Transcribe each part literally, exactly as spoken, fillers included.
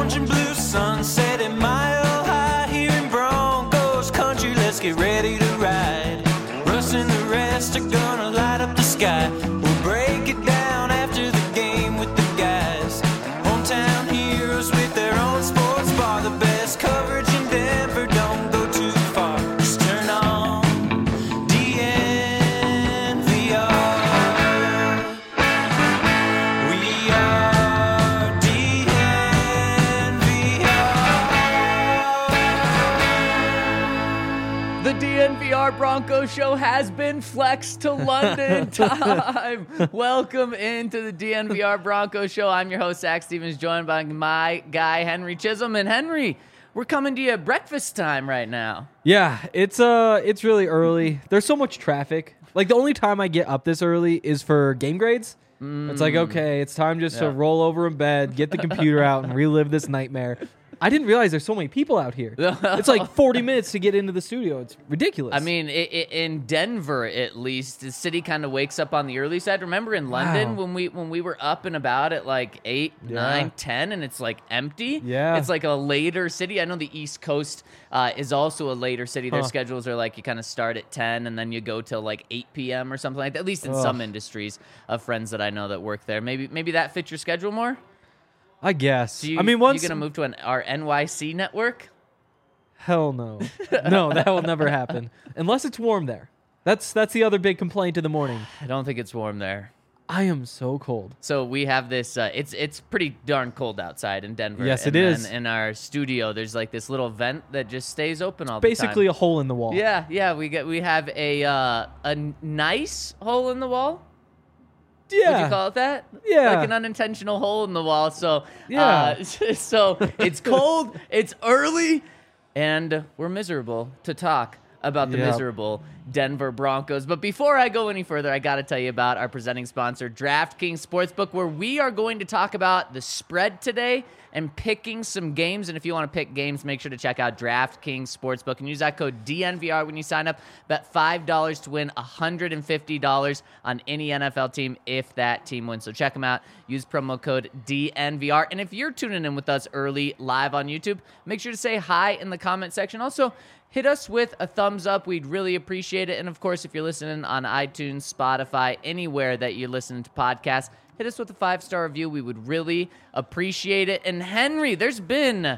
orange and blue sunset at Mile High here in Broncos country. Let's get ready to ride. Russ and the rest are gonna light up the sky. We'll break it down after the game with the guys. Hometown heroes with their own sports bar. The best coverage in Denver, don't go too far. Just turn on D N V R. We are D N V R. The D N V R Broncos show has been flexed to London time. Welcome into the D N V R Broncos show. I'm your host, Zach Stevens, joined by my guy, Henry Chisholm. And Henry, we're coming to you at breakfast time right now. Yeah, it's uh, it's really early. There's so much traffic. Like, the only time I get up this early is for game grades. Mm. It's like, okay, it's time just Yeah. to roll over in bed, get the computer out, and relive this nightmare. I didn't realize there's so many people out here. It's like forty minutes to get into the studio. It's ridiculous. I mean, i i in Denver, at least, the city kind of wakes up on the early side. Remember in London Wow. when we when we were up and about at like eight, Yeah. nine, ten, and it's like empty? Yeah. It's like a later city. I know the East Coast uh, is also a later city. Their Huh. schedules are like you kind of start at ten and then you go till like eight p.m. or something like that, at least in Ugh. some industries of friends that I know that work there. Maybe maybe that fits your schedule more? I guess. Do you, I mean, once you going to move to an our N Y C network? hell no, no, that will never happen unless it's warm there. That's that's the other big complaint in the morning. I don't think it's warm there. I am so cold. So we have this. Uh, it's it's pretty darn cold outside in Denver. Yes, and it is. then in our studio, there's like this little vent that just stays open all Basically, the a hole in the wall. time. Yeah, yeah. We get we have a uh, a nice hole in the wall. yeah. Would you call it that? Yeah. Like an unintentional hole in the wall. So Yeah. Uh, so it's cold. It's early, and we're miserable to talk about the Yep. miserable Denver Broncos. But before I go any further, I got to tell you about our presenting sponsor, DraftKings Sportsbook, where we are going to talk about the spread today and picking some games. And if you want to pick games, make sure to check out DraftKings Sportsbook and use that code D N V R when you sign up. Bet five dollars to win one hundred fifty dollars on any N F L team if that team wins. So check them out. Use promo code D N V R. And if you're tuning in with us early live on YouTube, make sure to say hi in the comment section. Also, hit us with a thumbs up. We'd really appreciate it. And of course, if you're listening on iTunes, Spotify, anywhere that you're listening to podcasts, hit us with a five-star review. We would really appreciate it. And Henry, there's been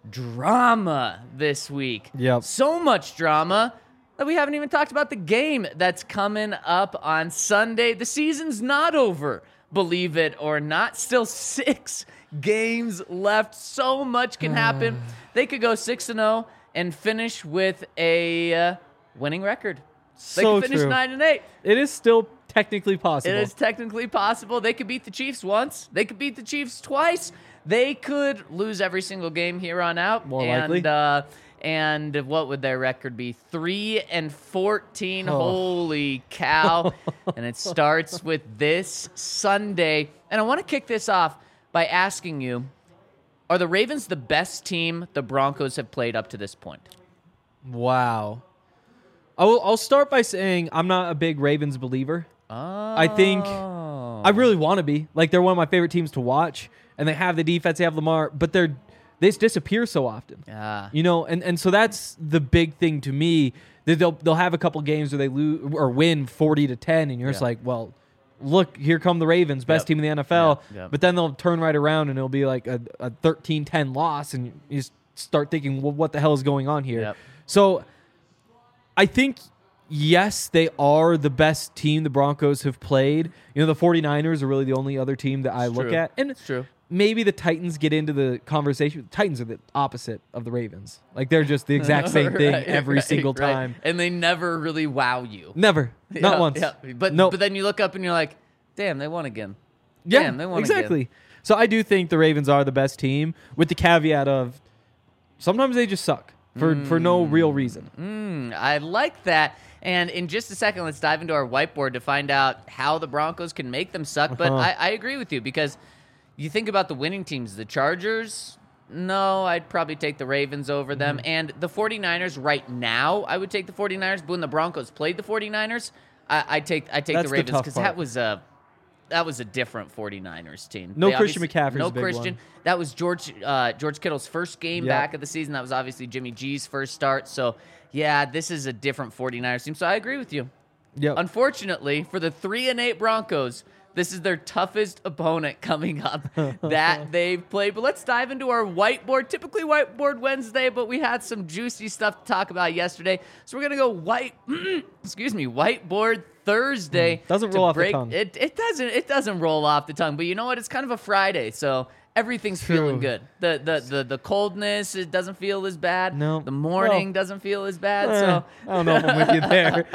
drama this week. Yep. So much drama that we haven't even talked about the game that's coming up on Sunday. The season's not over, believe it or not. Still six games left. So much can happen. They could go six and oh and finish with a uh, winning record. They So could finish true. nine and eight. It is still technically possible. It is technically possible. They could beat the Chiefs once. They could beat the Chiefs twice. They could lose every single game here on out. More and, likely. Uh, and what would their record be? Three and fourteen. Oh. Holy cow! And it starts with this Sunday. And I want to kick this off by asking you: are the Ravens the best team the Broncos have played up to this point? Wow. I will, I'll start by saying I'm not a big Ravens believer. Oh. I think I really want to be. Like, they're one of my favorite teams to watch, and they have the defense, they have Lamar, but they're they just disappear so often. Yeah. You know, and, and so that's the big thing to me. That They'll they'll have a couple games where they lose or win forty to ten, and you're just Yeah. like, well, look, here come the Ravens, best Yep. team in the N F L. Yep, yep. But then they'll turn right around and it'll be like a, a thirteen ten loss, and you just start thinking, well, what the hell is going on here? Yep. So I think, yes, they are the best team the Broncos have played. You know, the 49ers are really the only other team that I It's look true. at. And It's true. maybe the Titans get into the conversation. The Titans are the opposite of the Ravens. Like, they're just the exact same thing Right, every right, single right. time. And they never really wow you. Never. Not Yeah, once. yeah. But Nope. but then you look up and you're like, damn, they won again. Yeah, Damn, they won exactly. again. So I do think the Ravens are the best team, with the caveat of sometimes they just suck for, for no real reason. Mm, I like that. And in just a second, let's dive into our whiteboard to find out how the Broncos can make them suck. But Uh-huh. I, I agree with you, because you think about the winning teams, the Chargers. No, I'd probably take the Ravens over them. And the 49ers right now, I would take the 49ers. But when the Broncos played the 49ers, I, I'd take, I'd take That's the the Ravens, tough because part. that was a that was a different 49ers team. No They Christian obviously- McCaffrey's No a big Christian. one. That was George uh, George Kittle's first game Yeah. back of the season. That was obviously Jimmy G's first start. So, yeah, this is a different 49ers team. So I agree with you. Yep. Unfortunately, for the three and eight Broncos, this is their toughest opponent coming up that they've played. But let's dive into our whiteboard. Typically whiteboard Wednesday, but we had some juicy stuff to talk about yesterday. So we're gonna go white. excuse me, whiteboard Thursday. Doesn't to roll off the break- tongue. It it doesn't it doesn't roll off the tongue. But you know what? It's kind of a Friday, so everything's True. feeling good. The the the the coldness it doesn't feel as bad. No. The morning Well, doesn't feel as bad. Eh, so I don't know if I'm with you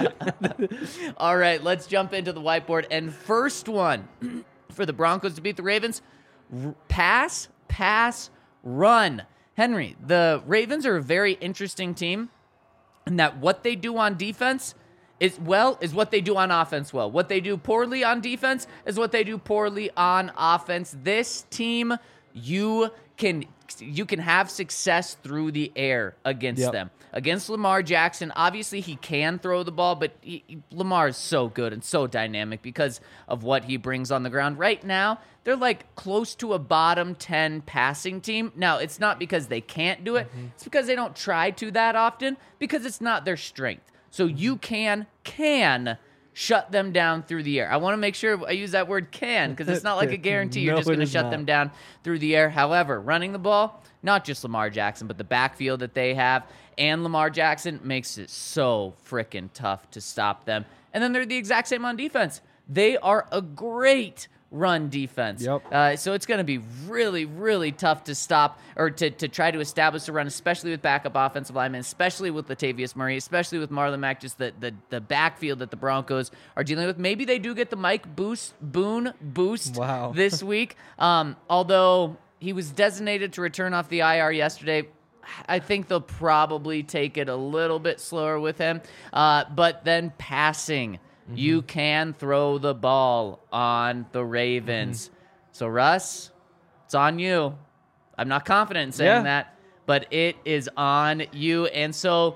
there. all right, let's jump into the whiteboard. And first one for the Broncos to beat the Ravens, r- pass, pass, run. Henry, the Ravens are a very interesting team in that what they do on defense is well is what they do on offense well. What they do poorly on defense is what they do poorly on offense. This team, you can you can have success through the air against Yep. them. Against Lamar Jackson, obviously he can throw the ball, but he, he- Lamar is so good and so dynamic because of what he brings on the ground. Right now, they're like close to a bottom ten passing team. Now, it's not because they can't do it. It's because they don't try to that often because it's not their strength. So you can, can shut them down through the air. I want to make sure I use that word can because it's not like a guarantee you're No, just it going to is shut not. them down through the air. However, running the ball, not just Lamar Jackson, but the backfield that they have and Lamar Jackson makes it so freaking tough to stop them. And then they're the exact same on defense. They are a great run defense. Yep. Uh, so it's going to be really, really tough to stop or to, to try to establish a run, especially with backup offensive linemen, especially with Latavius Murray, especially with Marlon Mack, just the, the, the backfield that the Broncos are dealing with. Maybe they do get the Mike boost, Boone boost Wow. this week. Um, although he was designated to return off the I R yesterday, I think they'll probably take it a little bit slower with him. Uh, but then passing. Mm-hmm. You can throw the ball on the Ravens. Mm-hmm. So, Russ, it's on you. I'm not confident in saying Yeah. that, but it is on you. And so,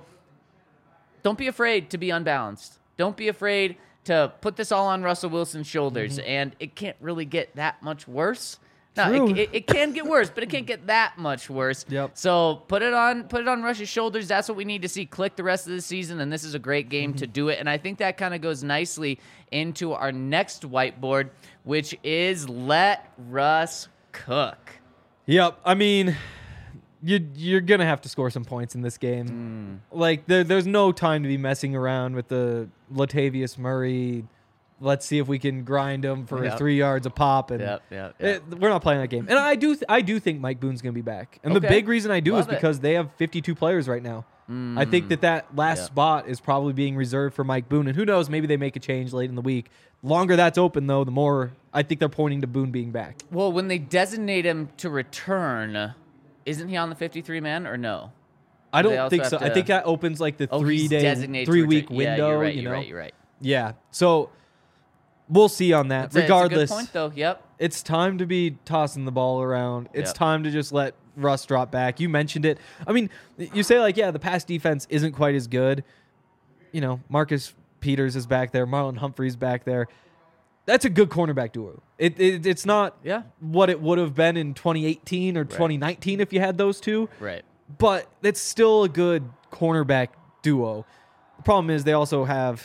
don't be afraid to be unbalanced. Don't be afraid to put this all on Russell Wilson's shoulders. And it can't really get that much worse. No, True. it, it, it can get worse, but it can't get that much worse. Yep. So put it on, put it on Rush's shoulders. That's what we need to see click the rest of the season, and this is a great game to do it. And I think that kind of goes nicely into our next whiteboard, which is let Russ cook. Yep. I mean, you you're gonna have to score some points in this game. Mm. Like there, there's no time to be messing around with the Latavius Murray. Let's see if we can grind them for Yep. three yards a pop. And Yep, yep, it- yep. we're not playing that game. And I do th- I do think Mike Boone's gonna be back. And the Okay. big reason I do Love is it. because they have fifty-two players right now. I think that that last Yep. spot is probably being reserved for Mike Boone. And who knows, maybe they make a change late in the week. Longer that's open, though, the more I think they're pointing to Boone being back. Well, when they designate him to return, isn't he on the fifty-three man or no? I They don't also think have so. I to- think that opens like the Oh, three he's day, designated to three return. week Yeah, window. you're right. you You're know, right. You're right. yeah. So we'll see on that. It's a- Regardless, it's a good point, though. Yep. it's time to be tossing the ball around. It's Yep. time to just let Russ drop back. You mentioned it. I mean, you say like, yeah, the pass defense isn't quite as good. You know, Marcus Peters is back there. Marlon Humphrey's back there. That's a good cornerback duo. It, it it's not Yeah. what it would have been in twenty eighteen or twenty nineteen if you had those two, Right. but it's still a good cornerback duo. The problem is they also have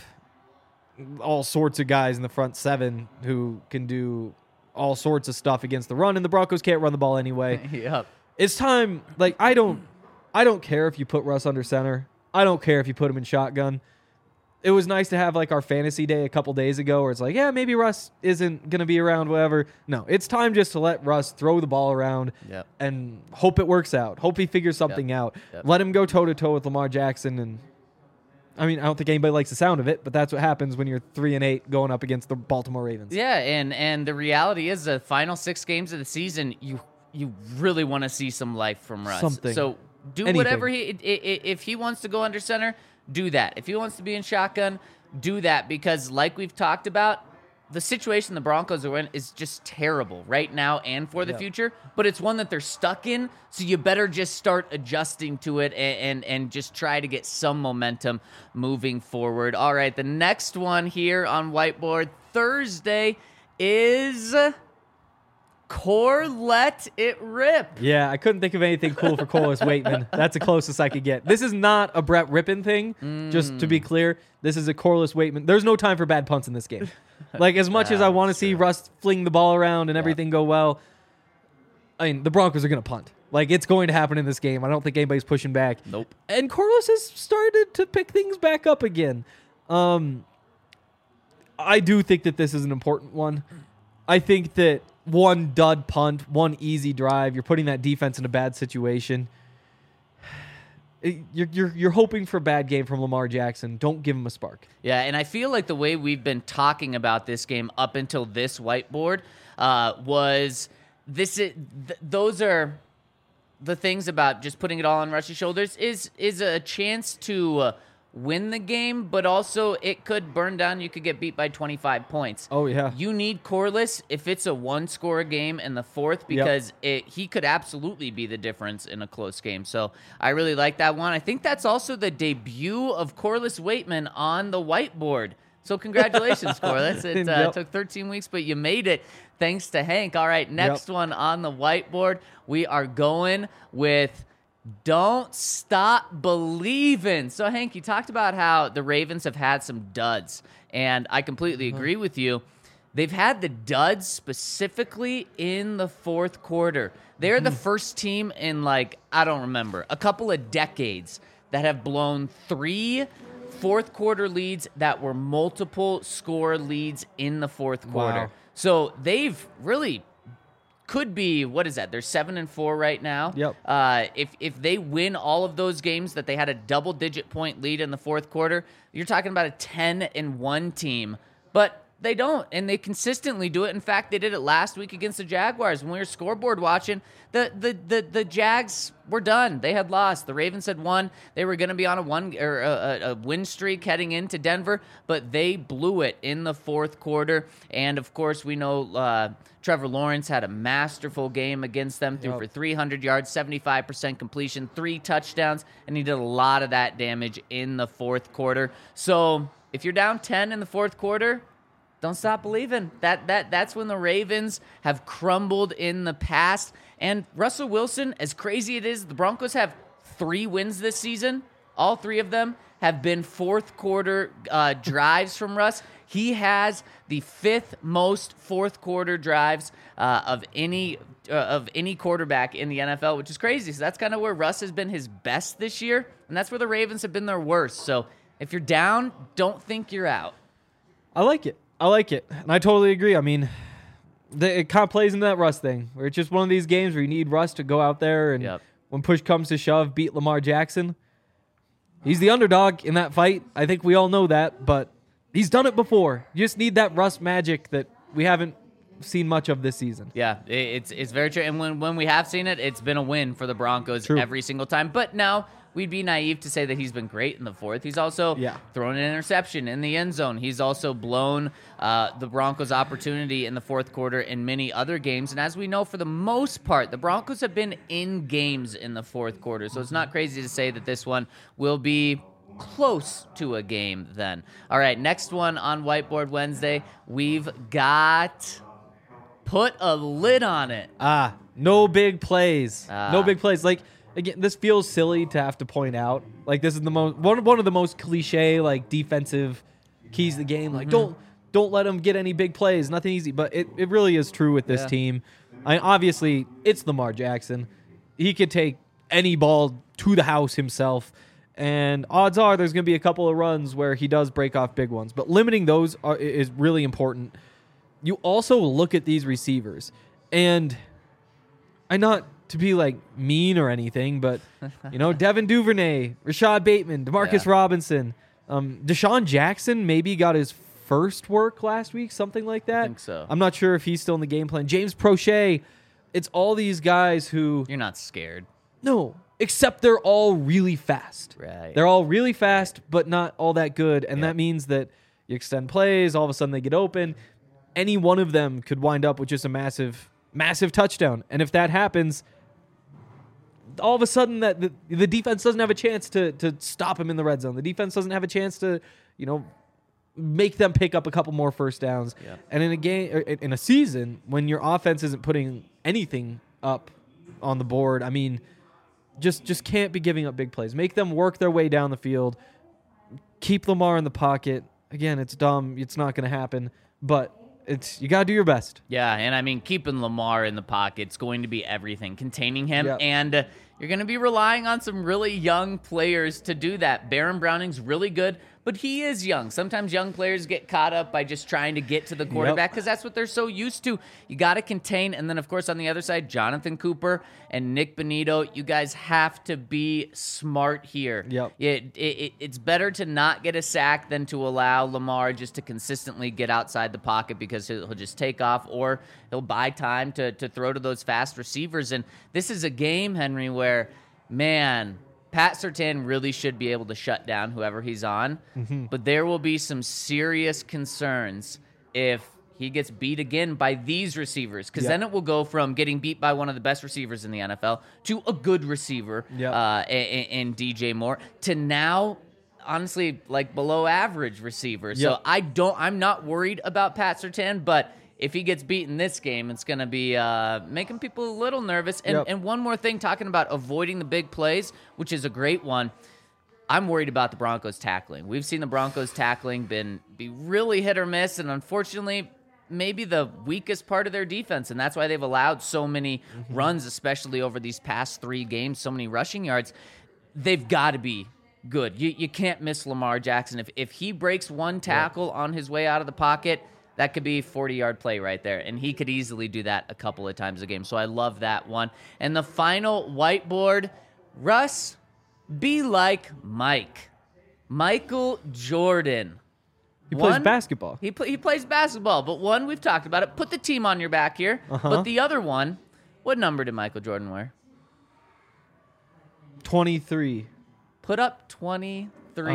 all sorts of guys in the front seven who can do all sorts of stuff against the run, and the Broncos can't run the ball anyway. Yep. It's time. Like I don't, I don't care if you put Russ under center. I don't care if you put him in shotgun. It was nice to have like our fantasy day a couple days ago where it's like, yeah, maybe Russ isn't going to be around, whatever. No, it's time just to let Russ throw the ball around Yep. and hope it works out. Hope he figures something out. Yep. Let him go toe to toe with Lamar Jackson. And I mean, I don't think anybody likes the sound of it, but that's what happens when you're three and eight going up against the Baltimore Ravens. Yeah, and and the reality is the final six games of the season, you you really want to see some life from Russ. Something. So do Anything. whatever he i- i- if he wants to go under center, do that. If he wants to be in shotgun, do that because like we've talked about, the situation the Broncos are in is just terrible right now and for the Yeah. future, but it's one that they're stuck in, so you better just start adjusting to it and, and, and just try to get some momentum moving forward. All right, the next one here on whiteboard Thursday is Core Let It Rip. Yeah, I couldn't think of anything cool for Corliss Waitman. That's the closest I could get. This is not a Brett Rippon thing, mm. just to be clear. This is a Corliss Waitman. There's no time for bad punts in this game. Like, as much as I want to see Russ fling the ball around and everything yeah. go well, I mean, the Broncos are going to punt. Like, it's going to happen in this game. I don't think anybody's pushing back. Nope. And Corliss has started to pick things back up again. Um, I do think that this is an important one. I think that one dud punt, one easy drive, you're putting that defense in a bad situation. You're, you're, you're hoping for a bad game from Lamar Jackson. Don't give him a spark. Yeah, and I feel like the way we've been talking about this game up until this whiteboard uh, was this. Is, th- those are the things about just putting it all on Rush's shoulders is is a chance to uh, win the game, but also it could burn down. You could get beat by twenty-five points. Oh, yeah. You need Corliss if it's a one-score game in the fourth because yep. it, he could absolutely be the difference in a close game. So I really like that one. I think that's also the debut of Corliss Waitman on the whiteboard. So congratulations, Corliss. It uh, yep. took thirteen weeks, but you made it thanks to Hank. All right, next yep. one on the whiteboard. We are going with Don't Stop Believing. So, Hank, you talked about how the Ravens have had some duds, and I completely agree with you. They've had the duds specifically in the fourth quarter. They're the first team in, like, I don't remember, a couple of decades that have blown three fourth quarter leads that were multiple score leads in the fourth quarter. Wow. So they've really could be, what is that? They're seven and four right now. Yep. Uh, if if they win all of those games that they had a double digit point lead in the fourth quarter, you're talking about a ten and one team. But they don't, and they consistently do it. In fact, they did it last week against the Jaguars. When we were scoreboard watching, the the the, the Jags were done. They had lost. The Ravens had won. They were going to be on a one or a, a win streak heading into Denver, but they blew it in the fourth quarter. And of course, we know uh, Trevor Lawrence had a masterful game against them, threw yep. for three hundred yards, seventy-five percent completion, three touchdowns, and he did a lot of that damage in the fourth quarter. So if you're down ten in the fourth quarter, don't stop believing. That that that's when the Ravens have crumbled in the past. And Russell Wilson, as crazy it is, the Broncos have three wins this season. All three of them have been fourth quarter uh, drives from Russ. He has the fifth most fourth quarter drives uh, of any uh, of any quarterback in the N F L, which is crazy. So that's kind of where Russ has been his best this year, and that's where the Ravens have been their worst. So if you're down, don't think you're out. I like it. I like it, and I totally agree. I mean, the, it kind of plays into that Russ thing, where it's just one of these games where you need Russ to go out there and yep. when push comes to shove, beat Lamar Jackson. He's the underdog in that fight. I think we all know that, but he's done it before. You just need that Russ magic that we haven't seen much of this season. Yeah, it's it's very true. And when, when we have seen it, it's been a win for the Broncos True. every single time. But now we'd be naive to say that he's been great in the fourth. He's also yeah. thrown an interception in the end zone. He's also blown uh, the Broncos' opportunity in the fourth quarter in many other games. And as we know, for the most part, the Broncos have been in games in the fourth quarter. So it's not crazy to say that this one will be close to a game then. All right, next one on Whiteboard Wednesday, we've got Put a Lid on It. Ah, no big plays. Ah. No big plays. Like, again, this feels silly to have to point out. Like, this is the most one one of the most cliche like defensive keys to the game. Like, mm-hmm. don't don't let them get any big plays. Nothing easy, but it, it really is true with this yeah. team. I obviously it's Lamar Jackson. He could take any ball to the house himself, and odds are there's going to be a couple of runs where he does break off big ones. But limiting those are, is really important. You also look at these receivers, and I not. to be like mean or anything, but you know, Devin Duvernay, Rashad Bateman, Demarcus yeah. Robinson, um, Deshaun Jackson maybe got his first work last week, something like that. I think so. I'm not sure if he's still in the game plan. James Prochet, it's all these guys who you're not scared. No, except they're all really fast. Right. They're all really fast, but not all that good, and yeah. that means that you extend plays, all of a sudden they get open. Any one of them could wind up with just a massive, massive touchdown, and if that happens, all of a sudden that the, the defense doesn't have a chance to to stop him in the red zone. The defense doesn't have a chance to, you know, make them pick up a couple more first downs. Yep. And in a game, or in a season, when your offense isn't putting anything up on the board, I mean, just just can't be giving up big plays. Make them work their way down the field. Keep Lamar in the pocket. Again, it's dumb. It's not going to happen, but it's you got to do your best. Yeah, and I mean, keeping Lamar in the pocket is going to be everything. Containing him, Yep. and uh, you're going to be relying on some really young players to do that. Baron Browning's really good, but he is young. Sometimes young players get caught up by just trying to get to the quarterback because that's what they're so used to. You got to contain, and then, of course, on the other side, Jonathan Cooper and Nick Bonito, you guys have to be smart here. Yep. It, it, it's better to not get a sack than to allow Lamar just to consistently get outside the pocket because he'll, he'll just take off or he'll buy time to, to throw to those fast receivers. And this is a game, Henry, where, man, Pat Surtain really should be able to shut down whoever he's on, Mm-hmm. but there will be some serious concerns if he gets beat again by these receivers, because Yep. then it will go from getting beat by one of the best receivers in the N F L to a good receiver Yep. uh, in, in D J Moore to now, honestly, like below average receiver. So Yep. I don't, I'm not worried about Pat Surtain, but if he gets beat in this game, it's going to be uh, making people a little nervous. And, Yep. and one more thing, talking about avoiding the big plays, which is a great one. I'm worried about the Broncos tackling. We've seen the Broncos tackling been be really hit or miss, and unfortunately, maybe the weakest part of their defense, and that's why they've allowed so many runs, especially over these past three games, so many rushing yards. They've got to be good. You you can't miss Lamar Jackson. If if he breaks one tackle on his way out of the pocket, that could be a forty-yard play right there, and he could easily do that a couple of times a game. So I love that one. And the final whiteboard, Russ, be like Mike. Michael Jordan. He plays One- basketball. He, pl- he plays basketball, but one, we've talked about it. Put the team on your back here. Uh-huh. But the other one, what number did Michael Jordan wear? twenty-three. Put up twenty-three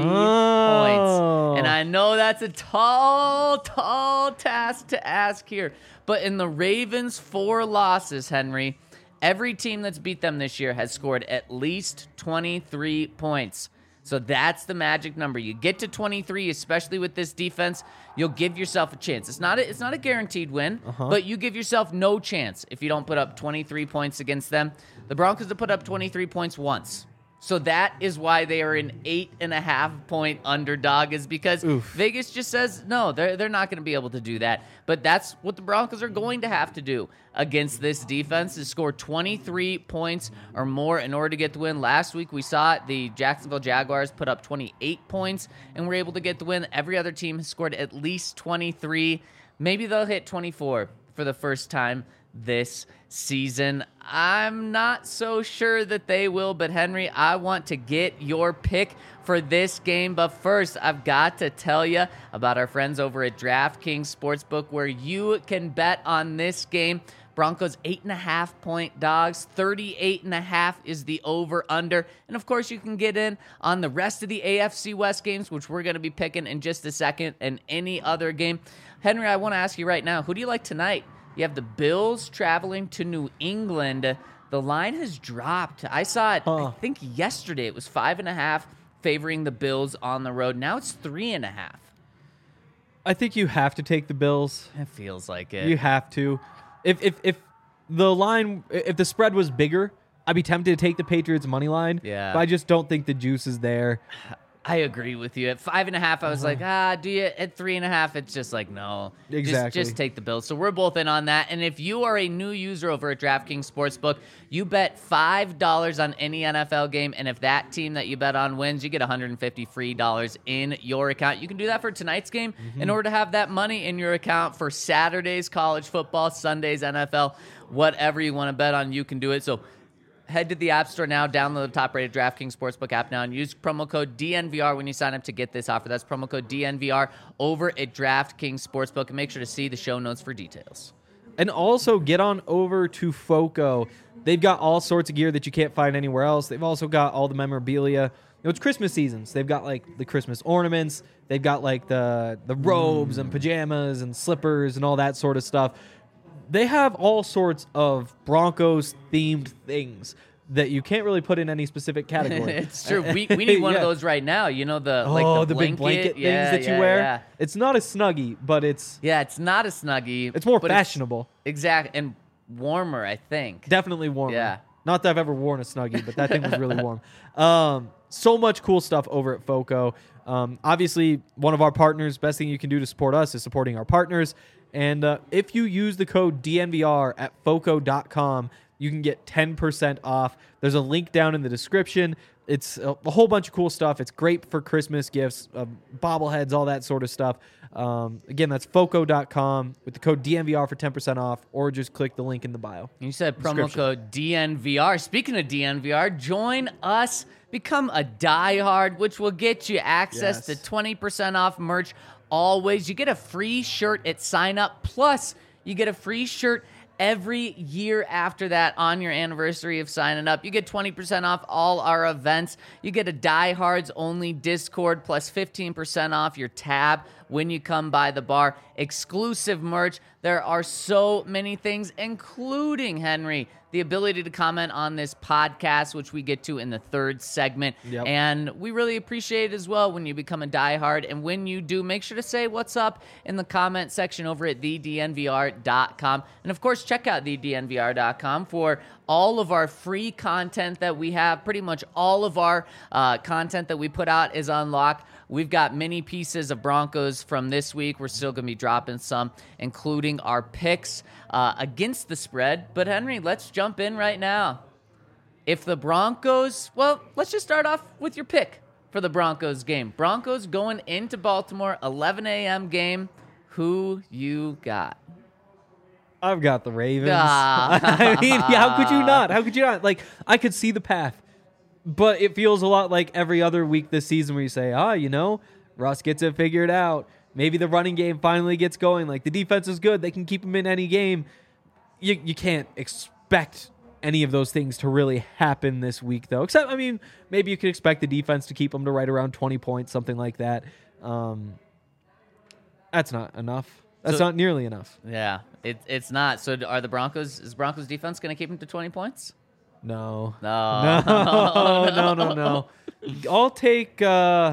Oh. points. And I know that's a tall, tall task to ask here. But in the Ravens' four losses, Henry, every team that's beat them this year has scored at least twenty-three points. So that's the magic number. You get to twenty-three, especially with this defense, you'll give yourself a chance. It's not a, it's not a guaranteed win, Uh-huh. but you give yourself no chance if you don't put up twenty-three points against them. The Broncos have put up twenty-three points once. So that is why they are an eight and a half point underdog, is because Oof. Vegas just says, no, they're, they're not going to be able to do that. But that's what the Broncos are going to have to do against this defense, is score twenty-three points or more in order to get the win. Last week we saw it. The Jacksonville Jaguars put up twenty-eight points and were able to get the win. Every other team has scored at least twenty-three. Maybe they'll hit twenty-four for the first time this season. I'm not so sure that they will, but Henry, I want to get your pick for this game. But first, I've got to tell you about our friends over at DraftKings Sportsbook, where you can bet on this game. Broncos eight and a half point dogs, thirty-eight and a half is the over under. And of course, you can get in on the rest of the A F C West games, which we're going to be picking in just a second, and any other game. Henry, I want to ask you right now, who do you like tonight? You have the Bills traveling to New England. The line has dropped. I saw it, Huh. I think yesterday. It was five and a half favoring the Bills on the road. Now it's three and a half. I think you have to take the Bills. It feels like it. You have to. If if if the line, if the spread was bigger, I'd be tempted to take the Patriots money line. Yeah. But I just don't think the juice is there. I agree with you. At five and a half, I was like, ah, do you? At three and a half, it's just like, no. Just- Exactly. Just, take the Bills. So we're both in on that. And if you are a new user over at DraftKings Sportsbook, you bet five dollars on any N F L game, and if that team that you bet on wins, you get one hundred fifty free dollars in your account. You can do that for tonight's game in order to have that money in your account for Saturday's college football, Sunday's N F L, whatever you want to bet on, you can do it. So head to the App Store now, download the top-rated DraftKings Sportsbook app now, and use promo code D N V R when you sign up to get this offer. That's promo code D N V R over at DraftKings Sportsbook, and make sure to see the show notes for details. And also get on over to Foco. They've got all sorts of gear that you can't find anywhere else. They've also got all the memorabilia. You know, it's Christmas seasons. They've got like the Christmas ornaments. They've got like the the robes and pajamas and slippers and all that sort of stuff. They have all sorts of Broncos themed things. that you can't really put in any specific category. It's true. We we need one Yeah. of those right now. You know the Oh, like the, the blanket, big blanket things yeah, that you yeah, wear. Yeah. It's not a Snuggie, but it's Yeah, it's not a Snuggie. it's more but fashionable. Exactly, and warmer, I think. Definitely warmer. Yeah. Not that I've ever worn a Snuggie, but that thing was really warm. Um, so much cool stuff over at FOCO. Um, obviously, one of our partners, best thing you can do to support us is supporting our partners. And uh, if you use the code D N V R at foco dot com, you can get ten percent off. There's a link down in the description. It's a, a whole bunch of cool stuff. It's great for Christmas gifts, uh, bobbleheads, all that sort of stuff. Um, again, that's foco dot com with the code D N V R for ten percent off, or just click the link in the bio. You said promo Description. code D N V R. Speaking of D N V R, join us. Become a diehard, which will get you access Yes. to twenty percent off merch always. You get a free shirt at sign up, plus you get a free shirt every year after that on your anniversary of signing up. You get twenty percent off all our events. You get a diehards only Discord plus fifteen percent off your tab when you come by the bar. Exclusive merch. There are so many things, including, Henry, the ability to comment on this podcast, which we get to in the third segment. Yep. And we really appreciate it as well when you become a diehard. And when you do, make sure to say what's up in the comment section over at the D N V R dot com. And of course, check out the D N V R dot com for all of our free content that we have. Pretty much all of our uh, content that we put out is unlocked. We've got many pieces of Broncos from this week. We're still going to be dropping some, including our picks uh, against the spread. But, Henry, let's jump in right now. If the Broncos, well, let's just start off with your pick for the Broncos game. Broncos going into Baltimore, eleven a.m. game. Who you got? I've got the Ravens. Ah. I mean, how could you not? How could you not? Like, I could see the path. But it feels a lot like every other week this season where you say, ah, you know, Russ gets it figured out. Maybe the running game finally gets going. Like, the defense is good. They can keep him in any game. You you can't expect any of those things to really happen this week, though. Except, I mean, maybe you could expect the defense to keep them to right around twenty points, something like that. Um, that's not enough. That's So- not nearly enough. Yeah, it, it's not. So are the Broncos, is Broncos defense going to keep them to twenty points? No. No. No, no, no, no. I'll take, uh,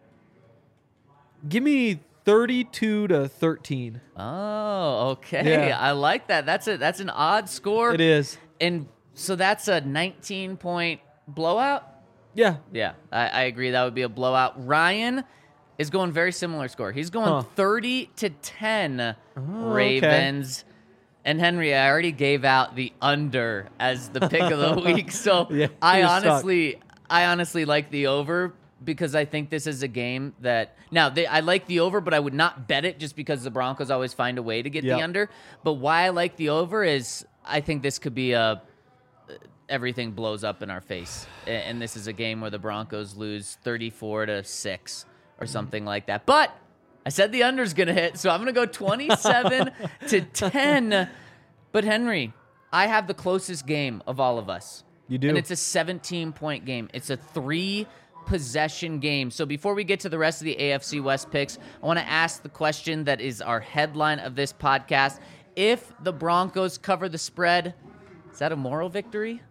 give me thirty-two to thirteen. Oh, okay. Yeah. I like that. That's a that's an odd score. It is. And so that's a nineteen point blowout? Yeah. Yeah, I, I agree. That would be a blowout. Ryan is going very similar score. He's going Huh. thirty to ten okay. Ravens. And Henry, I already gave out the under as the pick of the week. So Yeah, I you're stuck. honestly I honestly like the over because I think this is a game that now they, I like the over, but I would not bet it just because the Broncos always find a way to get Yep. the under. But why I like the over is I think this could be a everything blows up in our face, A- and this is a game where the Broncos lose thirty-four to six or something like that. But I said the under's gonna hit, so I'm gonna go twenty-seven to ten. But Henry, I have the closest game of all of us. You do. And it's a seventeen point game. It's a three possession game. So before we get to the rest of the A F C West picks, I want to ask the question that is our headline of this podcast. If the Broncos cover the spread, is that a moral victory?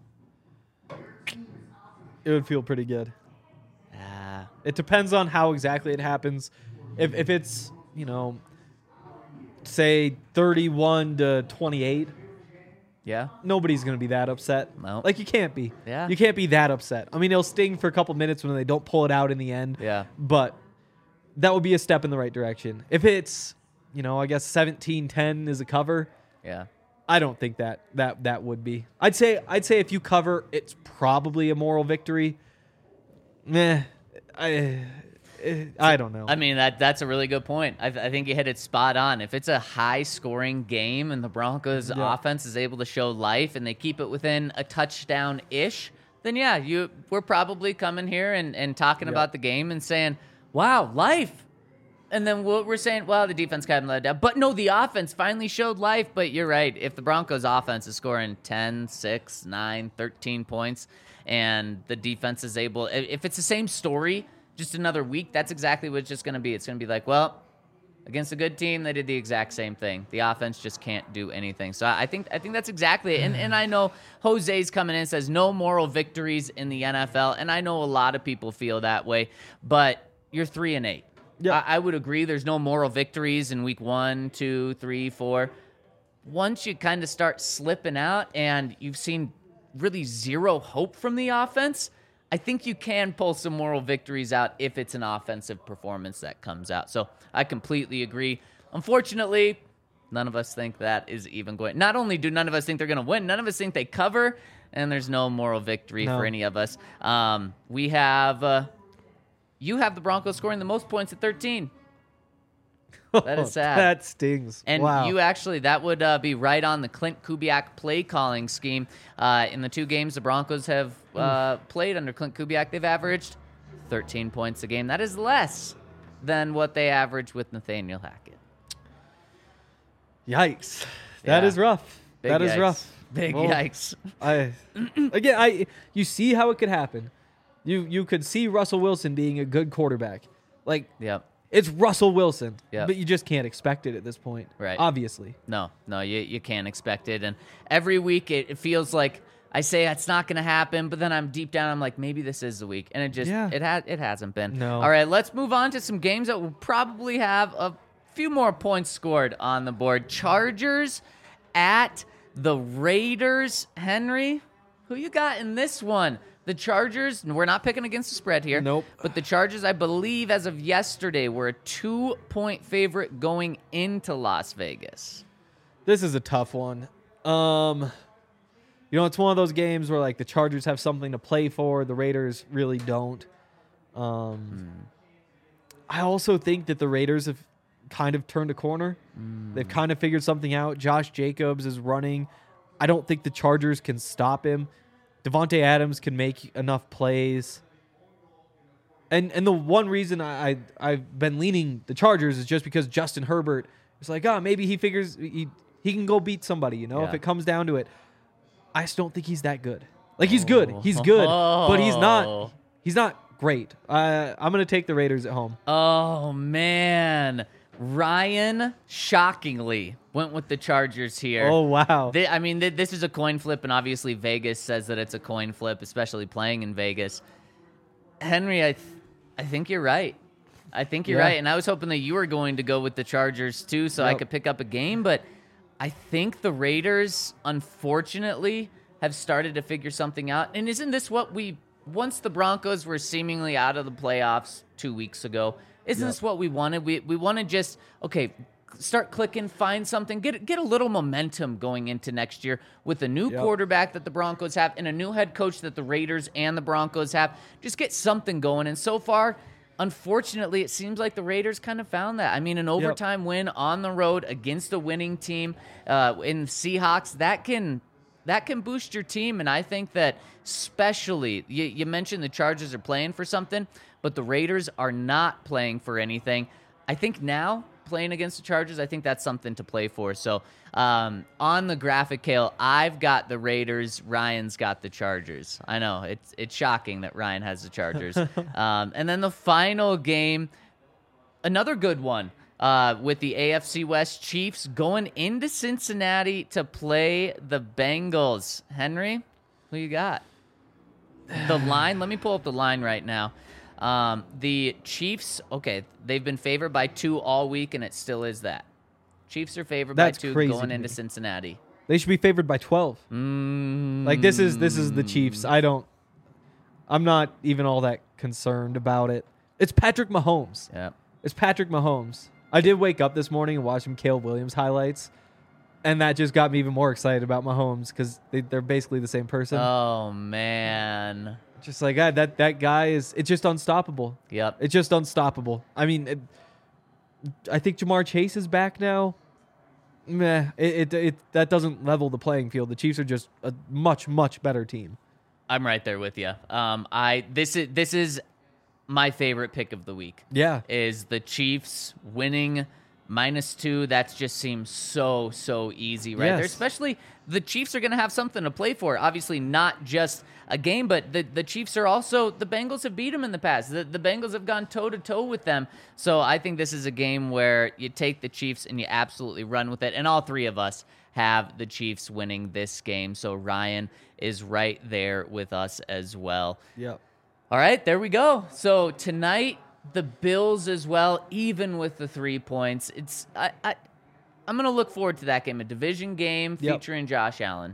It would feel pretty good. Ah, It depends on how exactly it happens. If if it's, you know, say thirty-one to twenty-eight, yeah. nobody's going to be that upset. No. Like, you can't be. Yeah. You can't be that upset. I mean, it'll sting for a couple minutes when they don't pull it out in the end. Yeah. But that would be a step in the right direction. If it's, you know, I guess seventeen ten is a cover, Yeah. I don't think that that that would be. I'd say I'd say if you cover, it's probably a moral victory. Meh. I I don't know. I mean, that that's a really good point. I, I think you hit it spot on. If it's a high-scoring game and the Broncos' Yeah. offense is able to show life and they keep it within a touchdown-ish, then yeah, you we're probably coming here and, and talking Yeah. about the game and saying, wow, life. And then we're we're saying, well, the defense kind of let it down. But no, the offense finally showed life. But you're right. If the Broncos' offense is scoring ten, six, nine, thirteen points and the defense is able, if it's the same story, just another week, that's exactly what it's just going to be. It's going to be like, well, Against a good team, they did the exact same thing. The offense just can't do anything. So I think I think that's exactly it. And, and I know Jose's coming in and says no moral victories in the N F L, and I know a lot of people feel that way, but you're three and eight. Yeah. I, I would agree there's no moral victories in week one, two, three, four. Once you kind of start slipping out and you've seen really zero hope from the offense, I think you can pull some moral victories out if it's an offensive performance that comes out. So I completely agree. Unfortunately, none of us think that is even going. Not only do none of us think they're going to win, none of us think they cover, and there's no moral victory No. for any of us. Um, we have, uh, you have the Broncos scoring the most points at thirteen. That is sad. That stings. And wow. you actually, that would uh, be right on the Clint Kubiak play calling scheme. Uh, in the two games the Broncos have uh, played under Clint Kubiak, they've averaged thirteen points a game. That is less than what they average with Nathaniel Hackett. Yikes. That Yeah. is rough. Big that is yikes. rough. Big Well, yikes. I again, I you see how it could happen. You you could see Russell Wilson being a good quarterback. Like Yep. it's Russell Wilson, Yep. but you just can't expect it at this point. Right. Obviously. No, no, you, you can't expect it. And every week it, it feels like I say it's not going to happen, but then I'm deep down, I'm like, maybe this is the week. And it just, Yeah. it, ha- it hasn't been. No. All right, let's move on to some games that will probably have a few more points scored on the board. Chargers at the Raiders. Henry, who you got in this one? The Chargers, we're not picking against the spread here. Nope. But the Chargers, I believe, as of yesterday, were a two-point favorite going into Las Vegas. This is a tough one. Um You know, it's one of those games where like the Chargers have something to play for, the Raiders really don't. Um, Hmm. I also think that the Raiders have kind of turned a corner. Hmm. They've kind of figured something out. Josh Jacobs is running. I don't think the Chargers can stop him. Devontae Adams can make enough plays. And and the one reason I, I I've been leaning the Chargers is just because Justin Herbert is like, oh, maybe he figures he he can go beat somebody, you know, Yeah. if it comes down to it. I just don't think he's that good. Like he's good, he's good, but he's not. He's not great. Uh, I'm gonna take the Raiders at home. Oh, man. Ryan, shockingly, went with the Chargers here. Oh wow. Thi- I mean, th- this is a coin flip, and obviously Vegas says that it's a coin flip, especially playing in Vegas. Henry, I, th- I think you're right. I think you're Yeah. right, and I was hoping that you were going to go with the Chargers too, so I Yep. could pick up a game. But I think the Raiders, unfortunately, have started to figure something out. And isn't this what we? Once the Broncos were seemingly out of the playoffs two weeks ago, isn't Yep. this what we wanted? We we want to just okay. Start clicking, find something, get get a little momentum going into next year with a new Yep. quarterback that the Broncos have and a new head coach that the Raiders and the Broncos have. Just get something going. And so far, unfortunately, it seems like the Raiders kind of found that. I mean, an overtime win on the road against a winning team uh, in Seahawks, that can that can boost your team. And I think that especially, you, you mentioned the Chargers are playing for something, but the Raiders are not playing for anything. I think now, playing against the Chargers, I think that's something to play for. So um, on the graphic, Kale, I've got the Raiders. Ryan's got the Chargers. I know it's it's shocking that Ryan has the Chargers. um, and then the final game, another good one uh, with the A F C West Chiefs going into Cincinnati to play the Bengals. Henry, who you got? The line. Let me pull up the line right now. Um, the Chiefs, okay, they've been favored by two all week, and it still is that. Chiefs are favored That's by two crazy going to into me. Cincinnati. They should be favored by twelve. Mm, Like this is this is the Chiefs. I don't. I'm not even all that concerned about it. It's Patrick Mahomes. Yeah. It's Patrick Mahomes. I did wake up this morning and watch some Caleb Williams highlights, and that just got me even more excited about Mahomes because they, they're basically the same person. Oh, man. Just like God, that that guy is. It's just unstoppable. Yep. It's just unstoppable. I mean, it, I think Jamar Chase is back now. Meh. It, it it that doesn't level the playing field. The Chiefs are just a much much better team. I'm right there with you. Um, I this is this is my favorite pick of the week. Yeah. Is the Chiefs winning minus two, that just seems so, so easy right there. Yes. Especially the Chiefs are going to have something to play for. Obviously, not just a game, but the, the Chiefs are also, the Bengals have beat them in the past. The, the Bengals have gone toe-to-toe with them. So I think this is a game where you take the Chiefs and you absolutely run with it. And all three of us have the Chiefs winning this game. So Ryan is right there with us as well. Yep. All right, there we go. So tonight, the Bills as well, even with the three points. It's I, I I'm gonna look forward to that game, a division game Yep. featuring Josh Allen.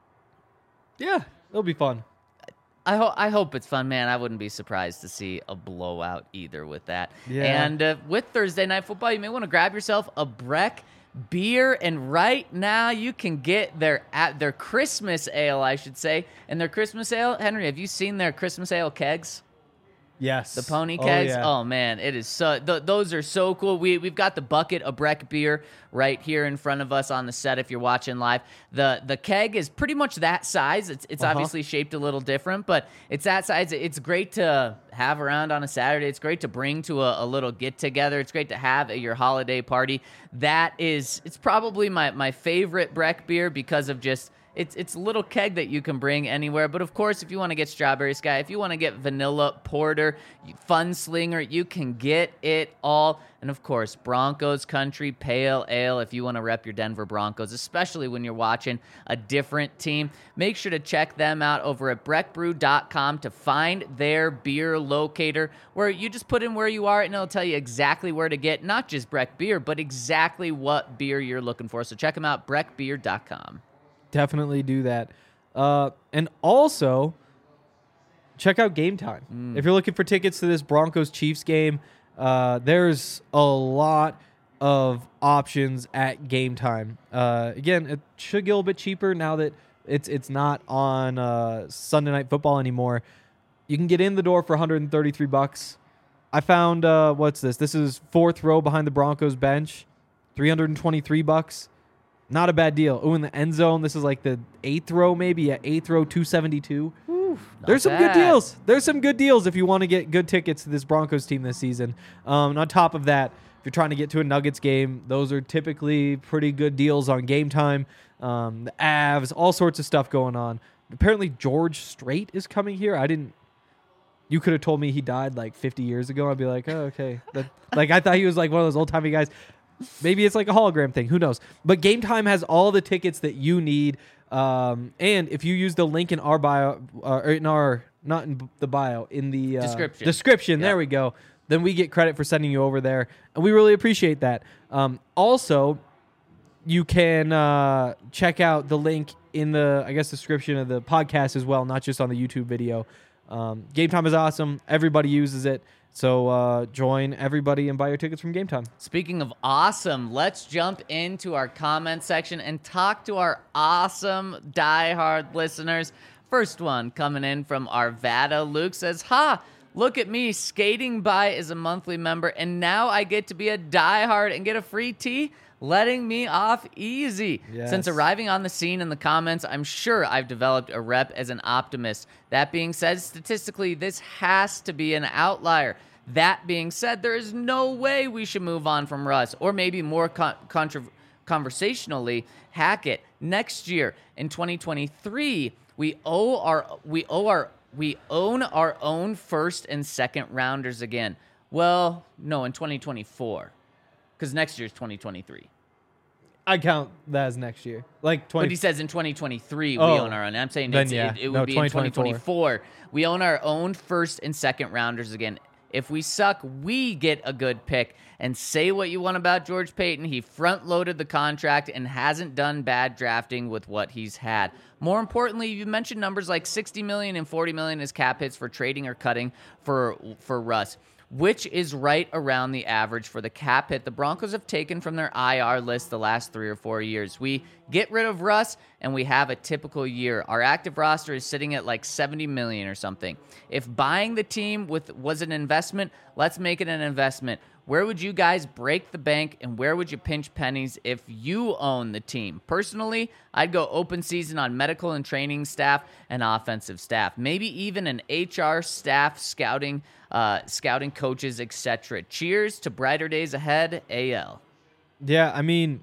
Yeah, it'll be fun. I hope I hope it's fun, man. I wouldn't be surprised to see a blowout either with that. Yeah. And uh, with Thursday Night Football, you may want to grab yourself a Breck beer, and right now you can get their at their Christmas ale, I should say, and their Christmas ale. Henry, have you seen their Christmas ale kegs? Yes. The pony Oh, kegs. yeah. Oh, man, it is so. Th- those are so cool. We we've got the bucket of Breck beer right here in front of us on the set. If you're watching live, the the keg is pretty much that size. It's it's Uh-huh. obviously shaped a little different, but it's that size. It's great to have around on a Saturday. It's great to bring to a, a little get together. It's great to have at your holiday party. That is, it's probably my my favorite Breck beer because of just. It's it's a little keg that you can bring anywhere. But, of course, if you want to get Strawberry Sky, if you want to get Vanilla Porter, Fun Slinger, you can get it all. And, of course, Broncos Country Pale Ale if you want to rep your Denver Broncos, especially when you're watching a different team. Make sure to check them out over at breck brew dot com to find their beer locator, where you just put in where you are, and it'll tell you exactly where to get not just Breck beer, but exactly what beer you're looking for. So check them out, breck beer dot com. Definitely do that. Uh, and also, check out Game Time. Mm. If you're looking for tickets to this Broncos-Chiefs game, uh, there's a lot of options at Game Time. Uh, again, it should get a little bit cheaper now that it's it's not on uh, Sunday Night Football anymore. You can get in the door for one hundred thirty-three bucks. I found, uh, what's this? This is fourth row behind the Broncos bench, three hundred twenty-three bucks. Not a bad deal. Oh, in the end zone, this is like the eighth row, maybe. Yeah, eighth row, two seventy-two. Not There's some bad. good deals. There's some good deals if you want to get good tickets to this Broncos team this season. Um, and on top of that, if you're trying to get to a Nuggets game, those are typically pretty good deals on Game Time. Um, the Avs, all sorts of stuff going on. Apparently, George Strait is coming here. I didn't. You could have told me he died like fifty years ago. I'd be like, oh, okay. That, like I thought he was like one of those old timey guys. Maybe it's like a hologram thing. Who knows? But Game Time has all the tickets that you need. Um, and if you use the link in our bio, uh, or in our, not in the bio, in the uh, Description. description, Yep. there we go, then we get credit for sending you over there. And we really appreciate that. Um, also, you can uh, check out the link in the, I guess, description of the podcast as well, not just on the YouTube video. Um, Game Time is awesome. Everybody uses it. So uh, join everybody and buy your tickets from Game Time. Speaking of awesome, let's jump into our comment section and talk to our awesome diehard listeners. First one coming in from Arvada. Luke says, ha, look at me skating by as a monthly member, and now I get to be a diehard and get a free tee, letting me off easy. Yes. Since arriving on the scene in the comments, I'm sure I've developed a rep as an optimist. That being said, statistically, this has to be an outlier. That being said, there is no way we should move on from Russ, or maybe more con- contra- conversationally, Hackett. Next year in twenty twenty-three, we owe our we owe our we own our own first and second rounders again. Well, no, in twenty twenty-four, because next year's twenty twenty-three. I count that as next year. Like twenty. But he says in twenty twenty-three we Oh. own our own. I'm saying Then it's, yeah. it, it would No, be in twenty twenty twenty-four. twenty-four. We own our own first and second rounders again. If we suck, we get a good pick. And say what you want about George Payton, he front-loaded the contract and hasn't done bad drafting with what he's had. More importantly, you mentioned numbers like sixty million dollars and forty million dollars as cap hits for trading or cutting for for Russ, which is right around the average for the cap hit the Broncos have taken from their I R list the last three or four years. We get rid of Russ, and we have a typical year. Our active roster is sitting at like seventy million dollars or something. If buying the team with was an investment, let's make it an investment. Where would you guys break the bank, and where would you pinch pennies if you own the team? Personally, I'd go open season on medical and training staff and offensive staff, maybe even an H R staff, scouting, uh, scouting coaches, et cetera. Cheers to brighter days ahead, A L. Yeah, I mean,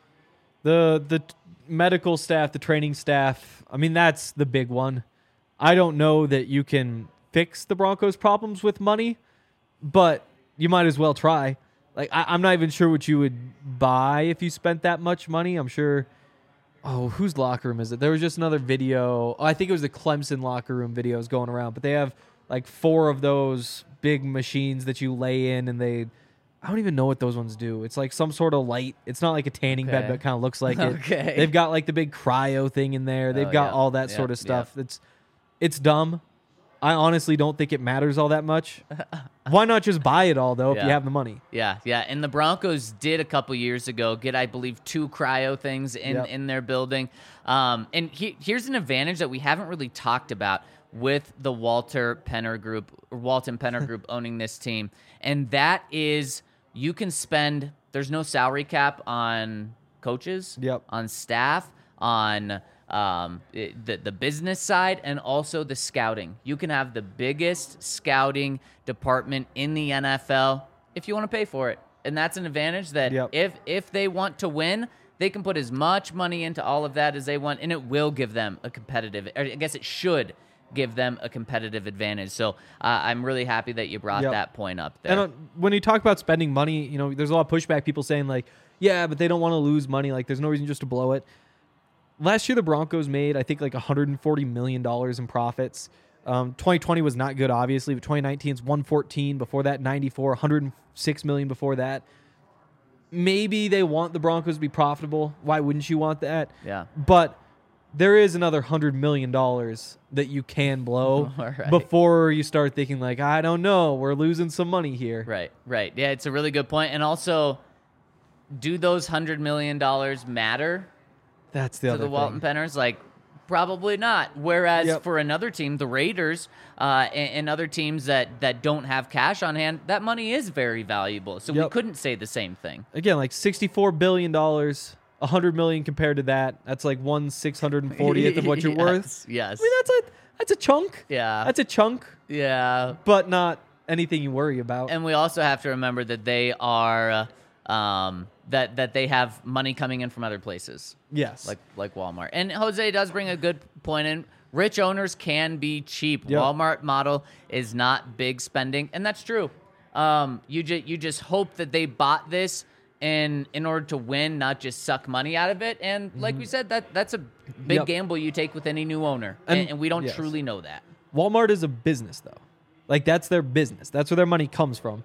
the the t- medical staff, the training staff, I mean, that's the big one. I don't know that you can fix the Broncos' problems with money, but you might as well try. Like, I, I'm not even sure what you would buy if you spent that much money. I'm sure. Oh, whose locker room is it? There was just another video. Oh, I think it was the Clemson locker room videos going around, but they have like four of those big machines that you lay in, and they. I don't even know what those ones do. It's like some sort of light. It's not like a tanning Okay. bed, but it kind of looks like Okay. it. They've got like the big cryo thing in there. They've Oh, got yeah. all that Yeah, sort of yeah. stuff. It's it's dumb. I honestly don't think it matters all that much. Why not just buy it all though if Yeah. you have the money? Yeah, yeah. And the Broncos did a couple years ago get, I believe, two cryo things in, Yep. in their building. Um, and he, here's an advantage that we haven't really talked about with the Walter Penner Group, or Walton Penner Group owning this team. And that is you can spend, there's no salary cap on coaches, Yep. on staff, on um, it- the, the business side, and also the scouting. You can have the biggest scouting department in the N F L if you want to pay for it. And that's an advantage that Yep. if if they want to win, they can put as much money into all of that as they want, and it will give them a competitive, or I guess it should give them a competitive advantage. So uh, I'm really happy that you brought Yep. that point up there. And uh, when you talk about spending money, you know, there's a lot of pushback. People saying like, yeah, but they don't want to lose money. Like, there's no reason just to blow it. Last year, the Broncos made, I think, like one hundred forty million dollars in profits. Um, twenty twenty was not good, obviously, but twenty nineteen is one hundred fourteen. Before that, ninety-four, one hundred six million dollars before that. Maybe they want the Broncos to be profitable. Why wouldn't you want that? Yeah. But there is another one hundred million dollars that you can blow All right. before you start thinking like, I don't know, we're losing some money here. Right, right. Yeah, it's a really good point. And also, do those one hundred million dollars matter That's the to other the Walton thing. Penners? Like, probably not. Whereas Yep. for another team, the Raiders uh, and, and other teams that, that don't have cash on hand, that money is very valuable. So we Yep. couldn't say the same thing. Again, like sixty-four billion dollars, one hundred million dollars compared to that. That's like one six hundred fortieth of what you're worth. Yes, Yes. I mean, that's a that's a chunk. Yeah. That's a chunk, yeah. but not anything you worry about. And we also have to remember that they are uh, um, that that they have money coming in from other places. yes. like like Walmart. And Jose does bring a good point in. Rich owners can be cheap. Yep. Walmart model is not big spending, and that's true. Um, you just you just hope that they bought this in in order to win, not just suck money out of it. And like we said, that that's a big Mm-hmm. Yep. gamble you take with any new owner, and, And- and we don't yes. truly know that. Walmart is a business though. Like, that's their business. That's where their money comes from.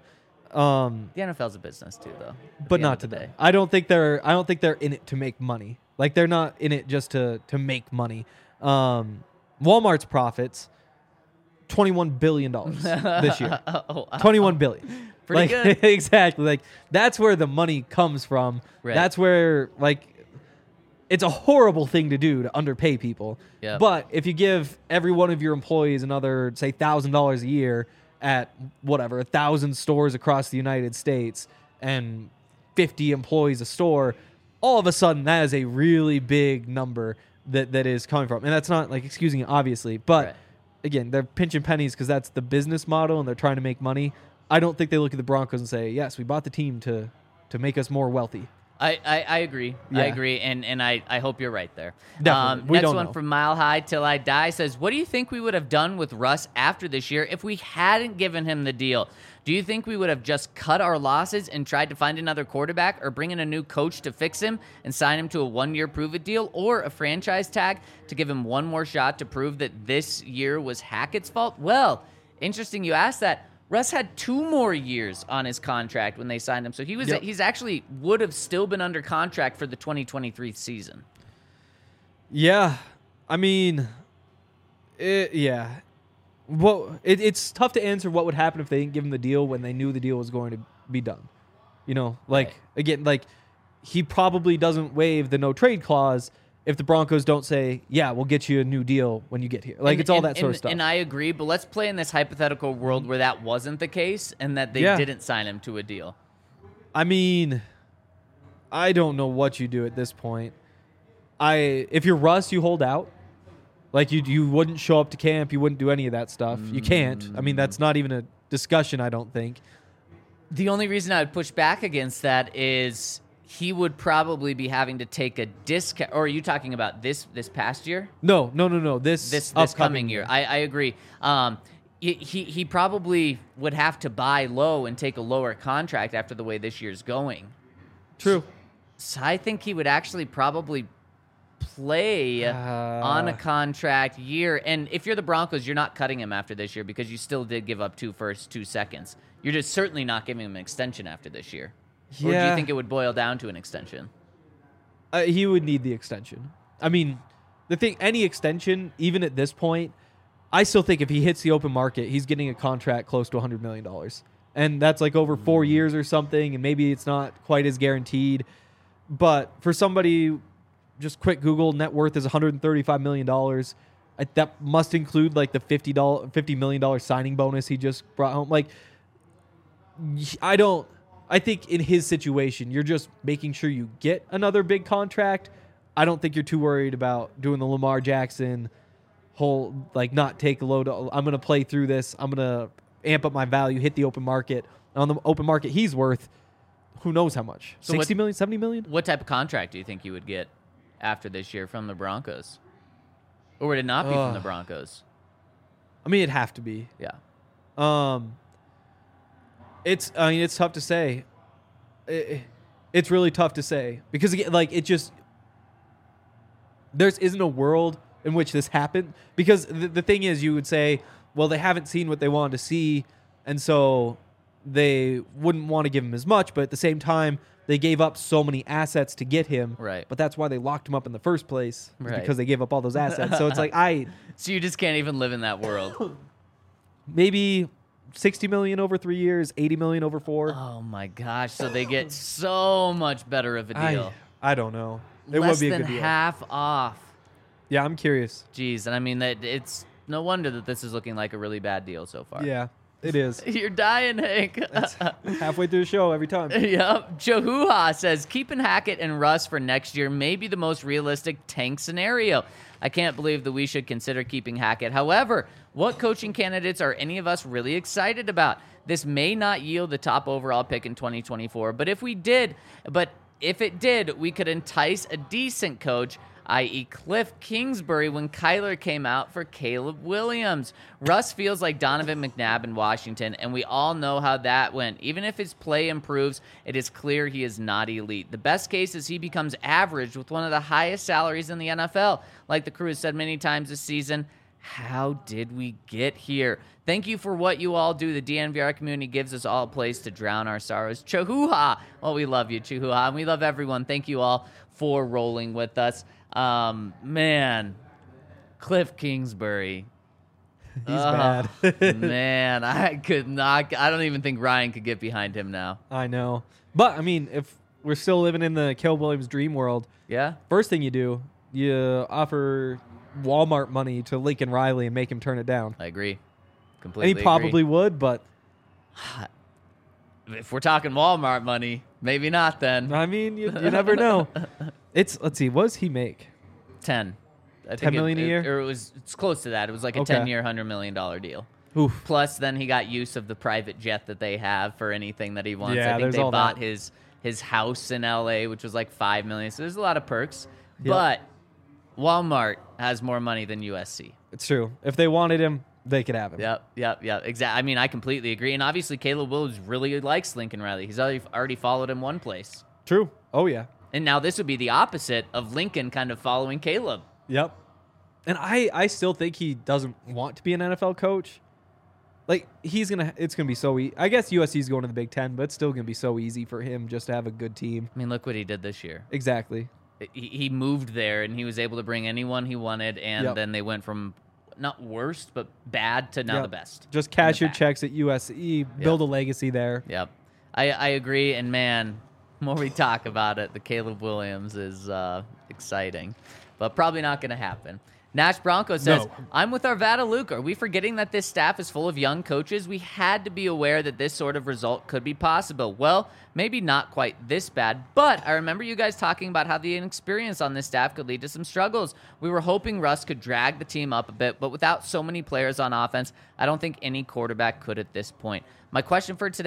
Um, The N F L's a business too, though. at but the not end of the today. day. I don't think they're I don't think they're in it to make money. Like, they're not in it just to to make money. Um, Walmart's profits twenty-one billion dollars this year. Oh, wow. twenty-one billion. Pretty like, good. Exactly. Like, that's where the money comes from. Right. That's where, like, it's a horrible thing to do to underpay people. Yep. But if you give every one of your employees another, say, one thousand dollars a year at whatever, a thousand stores across the United States and fifty employees a store, all of a sudden that is a really big number that, that is coming from. And that's not like excusing it, obviously. But Right. again, they're pinching pennies because that's the business model and they're trying to make money. I don't think they look at the Broncos and say, yes, we bought the team to to make us more wealthy. I, I, I agree. Yeah. I agree, and, and I, I hope you're right there. Definitely. Um, We next don't one know. from Mile High Till I Die says, what do you think we would have done with Russ after this year if we hadn't given him the deal? Do you think we would have just cut our losses and tried to find another quarterback or bring in a new coach to fix him and sign him to a one-year prove-it deal or a franchise tag to give him one more shot to prove that this year was Hackett's fault? Well, interesting you asked that. Russ had two more years on his contract when they signed him, so he was Yep. he's actually would have still been under contract for the twenty twenty-three season. Yeah, I mean, it, yeah. Well, it, it's tough to answer what would happen if they didn't give him the deal when they knew the deal was going to be done. You know, like Right. again, like he probably doesn't waive the no trade clause if the Broncos don't say, "Yeah, we'll get you a new deal when you get here." Like And- it's all and- that sort and- of stuff. And I agree, but let's play in this hypothetical world where that wasn't the case and that they Yeah. didn't sign him to a deal. I mean, I don't know what you do at this point. I if you're Russ, you hold out. Like you you wouldn't show up to camp, you wouldn't do any of that stuff. You can't. I mean, that's not even a discussion, I don't think. The only reason I would push back against that is he would probably be having to take a discount. Or are you talking about this this past year? No, no, no, no. This This this upcoming coming year. I, I agree. Um, he, he he probably would have to buy low and take a lower contract after the way this year's going. True. So I think he would actually probably play Uh. on a contract year. And if you're the Broncos, you're not cutting him after this year because you still did give up two firsts, two seconds. You're just certainly not giving him an extension after this year. Or do you Yeah. think it would boil down to an extension? Uh, he would need the extension. I mean, the thing, any extension, even at this point, I still think if he hits the open market, he's getting a contract close to one hundred million dollars. And that's like over four years or something, and maybe it's not quite as guaranteed. But for somebody, just quick Google, net worth is one hundred thirty-five million dollars. I, that must include like the fifty million dollars signing bonus he just brought home. Like, I don't... I think in his situation, you're just making sure you get another big contract. I don't think you're too worried about doing the Lamar Jackson whole, like, not take a load. Of, I'm going to play through this. I'm going to amp up my value, hit the open market. On the open market, he's worth who knows how much. So sixty what- million, seventy million? What type of contract do you think you would get after this year from the Broncos? Or would it not be from the Ugh. Broncos? I mean, it'd have to be. Yeah. Um, it's, I mean, it's tough to say. It, it's really tough to say because, again, like, it just, there's isn't a world in which this happened because the, the thing is, you would say, well, they haven't seen what they wanted to see, and so they wouldn't want to give him as much, but at the same time, they gave up so many assets to get him. Right. But that's why they locked him up in the first place, was Right. because they gave up all those assets. So it's like, I, So you just can't even live in that world. maybe sixty million over three years, eighty million over four. Oh my gosh. So they get so much better of a deal. I, I don't know. It Less would be a than good deal. half off. Yeah, I'm curious. Jeez. And I mean, that it's no wonder that this is looking like a really bad deal so far. Yeah, it is. You're dying, Hank. Halfway through the show every time. Yep. Jehuha says, keeping Hackett and Russ for next year may be the most realistic tank scenario. I can't believe that we should consider keeping Hackett. However, what coaching candidates are any of us really excited about? This may not yield the top overall pick in twenty twenty-four, but if we did, but if it did, we could entice a decent coach, that is. Cliff Kingsbury, when Kyler came out for Caleb Williams. Russ feels like Donovan McNabb in Washington, and we all know how that went. Even if his play improves, it is clear he is not elite. The best case is he becomes average with one of the highest salaries in the N F L. Like the crew has said many times this season, how did we get here? Thank you for what you all do. The D N V R community gives us all a place to drown our sorrows. Chihuahua. Well, we love you, Chihuahua, and we love everyone. Thank you all for rolling with us. Um, man, Cliff Kingsbury. He's Oh, bad. man, I could not. I don't even think Ryan could get behind him now. I know. But, I mean, if we're still living in the Caleb Williams dream world, Yeah? first thing you do, you offer Walmart money to Lincoln Riley and make him turn it down. I agree. And Completely he probably agree. would, but, If we're talking Walmart money, maybe not then. I mean, you, you never know. It's, let's see, what does he make? ten. I think ten million it, a it- year? Or it was, it's close to that. It was like a Okay. ten-year, one hundred million dollars deal. Oof. Plus, then he got use of the private jet that they have for anything that he wants. Yeah, I think there's they all bought that. his his house in L A, which was like five million dollars. So there's a lot of perks. Yep. But Walmart has more money than U S C. It's true. If they wanted him, they could have him. Yep, yep, yep. Exactly. I mean, I completely agree. And obviously, Caleb Williams really likes Lincoln Riley. He's already, already followed him one place. True. Oh, yeah. And now this would be the opposite of Lincoln kind of following Caleb. Yep. And I, I still think he doesn't want to be an N F L coach. Like, he's going to, it's going to be so easy. I guess U S C's going to the Big Ten, but it's still going to be so easy for him just to have a good team. I mean, look what he did this year. Exactly. He, he moved there, and he was able to bring anyone he wanted, and Yep. then they went from not worst, but bad to now Yep. the best. Just in the cash your pack. checks at U S C, build a legacy there. Yep. I, I agree, and man, more we talk about it, the Caleb Williams is uh, exciting, but probably not going to happen. Nash Bronco says, No. I'm with Arvada Luke. Are we forgetting that this staff is full of young coaches? We had to be aware that this sort of result could be possible. Well, maybe not quite this bad, but I remember you guys talking about how the inexperience on this staff could lead to some struggles. We were hoping Russ could drag the team up a bit, but without so many players on offense, I don't think any quarterback could at this point. My question for today,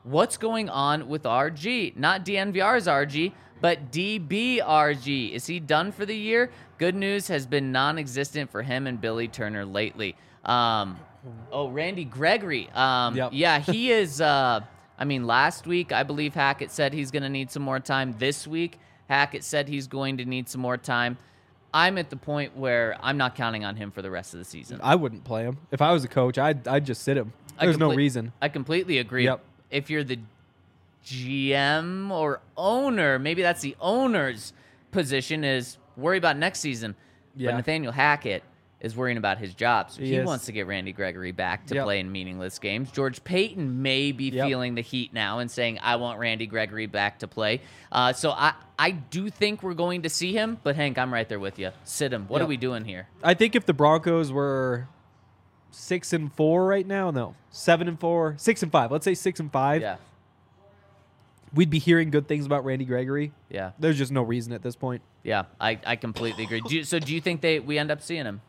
what's going on with R G? Not D N V R's R G, but D B R G. Is he done for the year? Good news has been non-existent for him and Billy Turner lately. Um, oh, Randy Gregory. Um, Yep. Yeah, he is. Uh, I mean, last week, I believe Hackett said he's going to need some more time. This week, Hackett said he's going to need some more time. I'm at the point where I'm not counting on him for the rest of the season. I wouldn't play him. If I was a coach, I'd, I'd just sit him. I There's no comple- reason. I completely agree. Yep. If you're the G M or owner, maybe that's the owner's position, is worry about next season. Yeah. But Nathaniel Hackett is worrying about his job. So he, He is. wants to get Randy Gregory back to Yep. play in meaningless games. George Payton may be Yep. feeling the heat now and saying, I want Randy Gregory back to play. Uh, so I, I do think we're going to see him. But, Hank, I'm right there with you. Sit him. What Yep. are we doing here? I think if the Broncos were six and four right now, no, seven and four, six and five. Let's say six and five. Yeah. We'd be hearing good things about Randy Gregory. Yeah. There's just no reason at this point. Yeah. I, I completely agree. Do you, so do you think they we end up seeing him?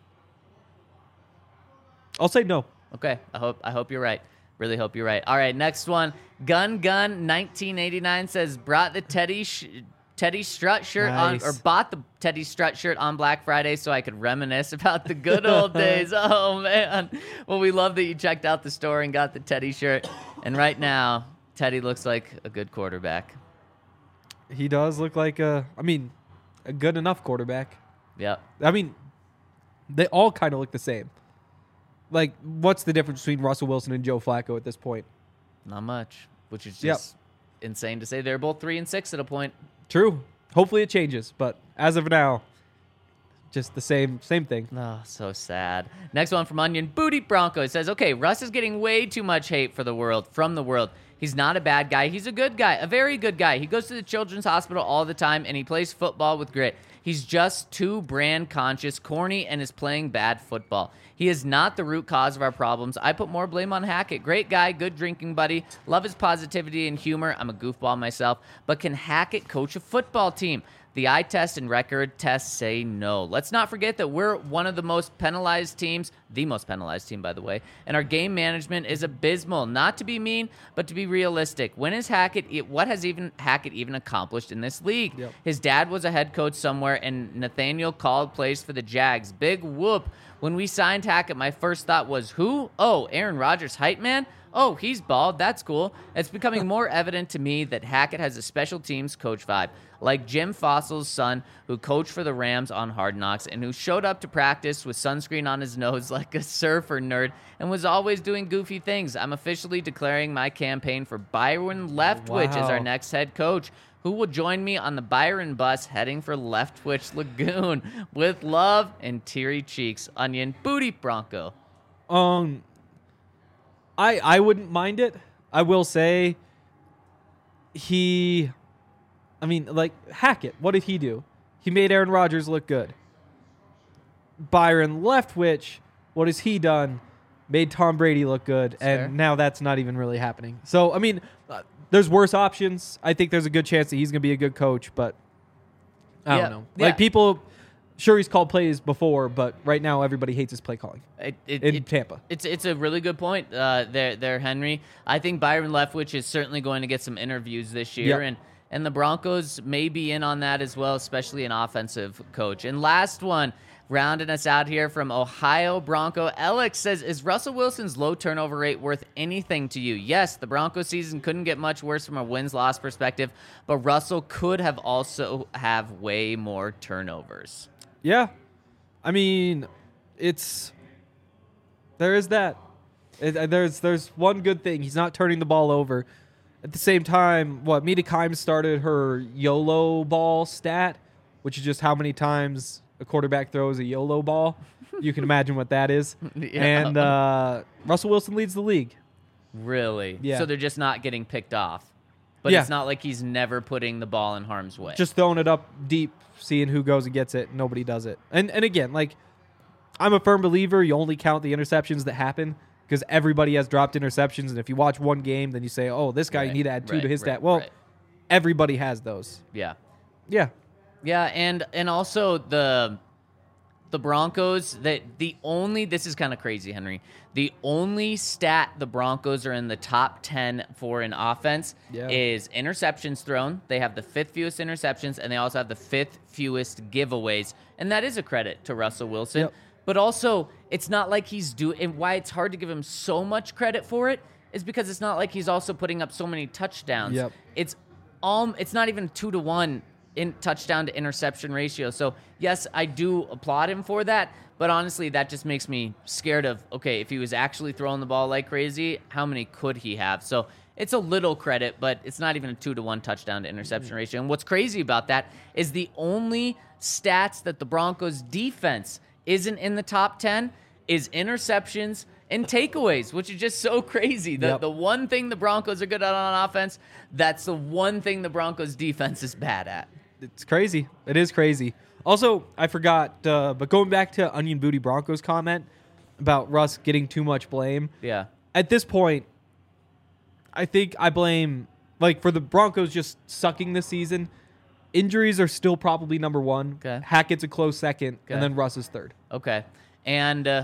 I'll say no. Okay, I hope I hope you're right. Really hope you're right. All right, next one. Gun Gun nineteen eighty-nine says brought the Teddy sh- Teddy Strut shirt Nice. on, or bought the Teddy Strut shirt on Black Friday so I could reminisce about the good old days. Oh man. Well, we love that you checked out the store and got the Teddy shirt. And right now, Teddy looks like a good quarterback. He does look like a, I mean, a good enough quarterback. Yep. I mean, they all kind of look the same. Like, what's the difference between Russell Wilson and Joe Flacco at this point? Not much, which is Yep. just insane to say. They're both three and six at a point. True. Hopefully it changes, but as of now, just the same same thing. Oh, so sad. Next one from Onion Booty Bronco. It says, okay, Russ is getting way too much hate for the world, from the world. He's not a bad guy. He's a good guy, a very good guy. He goes to the children's hospital all the time, and he plays football with grit. He's just too brand conscious, corny, and is playing bad football. He is not the root cause of our problems. I put more blame on Hackett. Great guy, good drinking buddy. Love his positivity and humor. I'm a goofball myself. But can Hackett coach a football team? The eye test and record test say no. Let's not forget that we're one of the most penalized teams, the most penalized team, by the way, and our game management is abysmal. Not to be mean, but to be realistic. When is Hackett, what has even Hackett even accomplished in this league? Yep. His dad was a head coach somewhere, and Nathaniel called plays for the Jags. Big whoop. When we signed Hackett, my first thought was, who? Oh, Aaron Rodgers' hype man? Oh, he's bald. That's cool. It's becoming more evident to me that Hackett has a special teams coach vibe, like Jim Fossil's son, who coached for the Rams on Hard Knocks and who showed up to practice with sunscreen on his nose like a surfer nerd and was always doing goofy things. I'm officially declaring my campaign for Byron Leftwich as our Wow. next head coach, who will join me on the Byron bus heading for Leftwich Lagoon. With love and teary cheeks, Onion Booty Bronco. Um, I I wouldn't mind it. I will say he, I mean, like Hackett. What did he do? He made Aaron Rodgers look good. Byron Leftwich, what has he done? Made Tom Brady look good, and Fair. now that's not even really happening. So I mean, uh, there's worse options. I think there's a good chance that he's going to be a good coach, but I Yeah. don't know. Yeah. Like people, sure he's called plays before, but right now everybody hates his play calling It, it, in it- Tampa. It's it's a really good point uh, there, there, Henry. I think Byron Leftwich is certainly going to get some interviews this year, Yep. and and the Broncos may be in on that as well, especially an offensive coach. And last one, rounding us out here from Ohio Bronco, Alex says, is Russell Wilson's low turnover rate worth anything to you? Yes, the Broncos season couldn't get much worse from a wins-loss perspective, but Russell could have also have way more turnovers. Yeah. I mean, it's there is that. It, uh, there's there's one good thing. He's not turning the ball over. At the same time, what Mita Kimes started her YOLO ball stat, which is just how many times a quarterback throws a YOLO ball. You can imagine what that is. Yeah. And uh, Russell Wilson leads the league. Really? Yeah. So they're just not getting picked off. But Yeah. it's not like he's never putting the ball in harm's way. Just throwing it up deep, seeing who goes and gets it. Nobody does it. And and again, like I'm a firm believer you only count the interceptions that happen because everybody has dropped interceptions. And if you watch one game, then you say, oh, this guy, you Right, need to add two right, to his right, stat. Well, right. everybody has those. yeah. Yeah. Yeah, and and also the the Broncos, that the only, this is kind of crazy, Henry. The only stat the Broncos are in the top ten for in offense Yeah. is interceptions thrown. They have the fifth fewest interceptions, and they also have the fifth fewest giveaways. And that is a credit to Russell Wilson. Yep. But also, it's not like he's doing, and why it's hard to give him so much credit for it is because it's not like he's also putting up so many touchdowns. Yep. It's um, it's not even two to one in touchdown to interception ratio. So yes, I do applaud him for that. But honestly, that just makes me scared of, okay, if he was actually throwing the ball like crazy, how many could he have? So it's a little credit, but it's not even a two to one touchdown to interception ratio. And what's crazy about that is the only stats that the Broncos defense isn't in the top ten is interceptions and takeaways, which is just so crazy. The, Yep. the one thing the Broncos are good at on offense, that's the one thing the Broncos defense is bad at. It's crazy. It is crazy. Also, I forgot, uh, but going back to Onion Booty Broncos comment about Russ getting too much blame. Yeah. At this point, I think I blame, like, for the Broncos just sucking this season, injuries are still probably number one. Okay. Hackett's a close second, Okay. and then Russ is third. Okay. And, uh,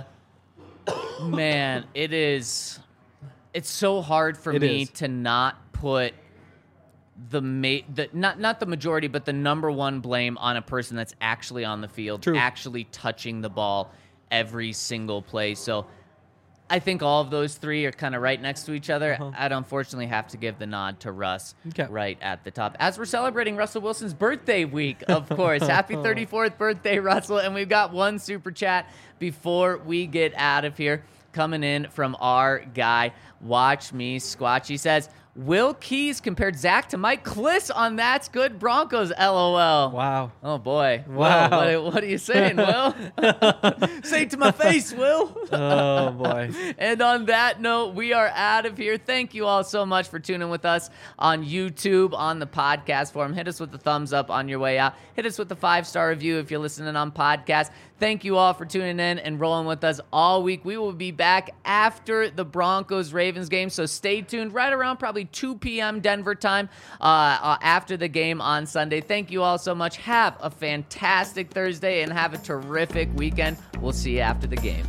man, it is, it's so hard for It me is. to not put the, ma- the not not the majority, but the number one blame on a person that's actually on the field, True. actually touching the ball every single play. So I think all of those three are kind of right next to each other. Uh-huh. I'd unfortunately have to give the nod to Russ Okay. right at the top. As we're celebrating Russell Wilson's birthday week, of course. Happy thirty-fourth birthday, Russell. And we've got one super chat before we get out of here coming in from our guy, Watch Me Squatch. He says, Will Keys compared Zach to Mike Kliss on That's Good Broncos, LOL. Wow. Oh, boy. Wow. Will, what, what are you saying, Will? Say it to my face, Will. Oh, boy. And on that note, we are out of here. Thank you all so much for tuning with us on YouTube, on the podcast forum. Hit us with the thumbs up on your way out. Hit us with the five-star review if you're listening on podcast. Thank you all for tuning in and rolling with us all week. We will be back after the Broncos-Ravens game, so stay tuned right around probably two p.m. Denver time uh, uh, after the game on Sunday. Thank you all so much. Have a fantastic Thursday and have a terrific weekend. We'll see you after the game.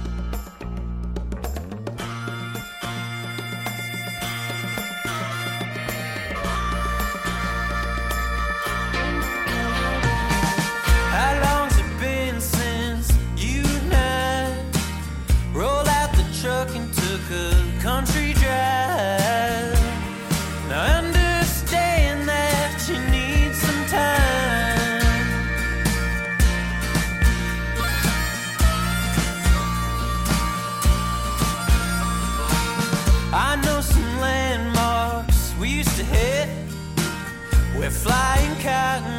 How long's it been since you and I rolled out the truck and took a country drive? Now I understand that you need some time. I know some landmarks we used to hit where flying cotton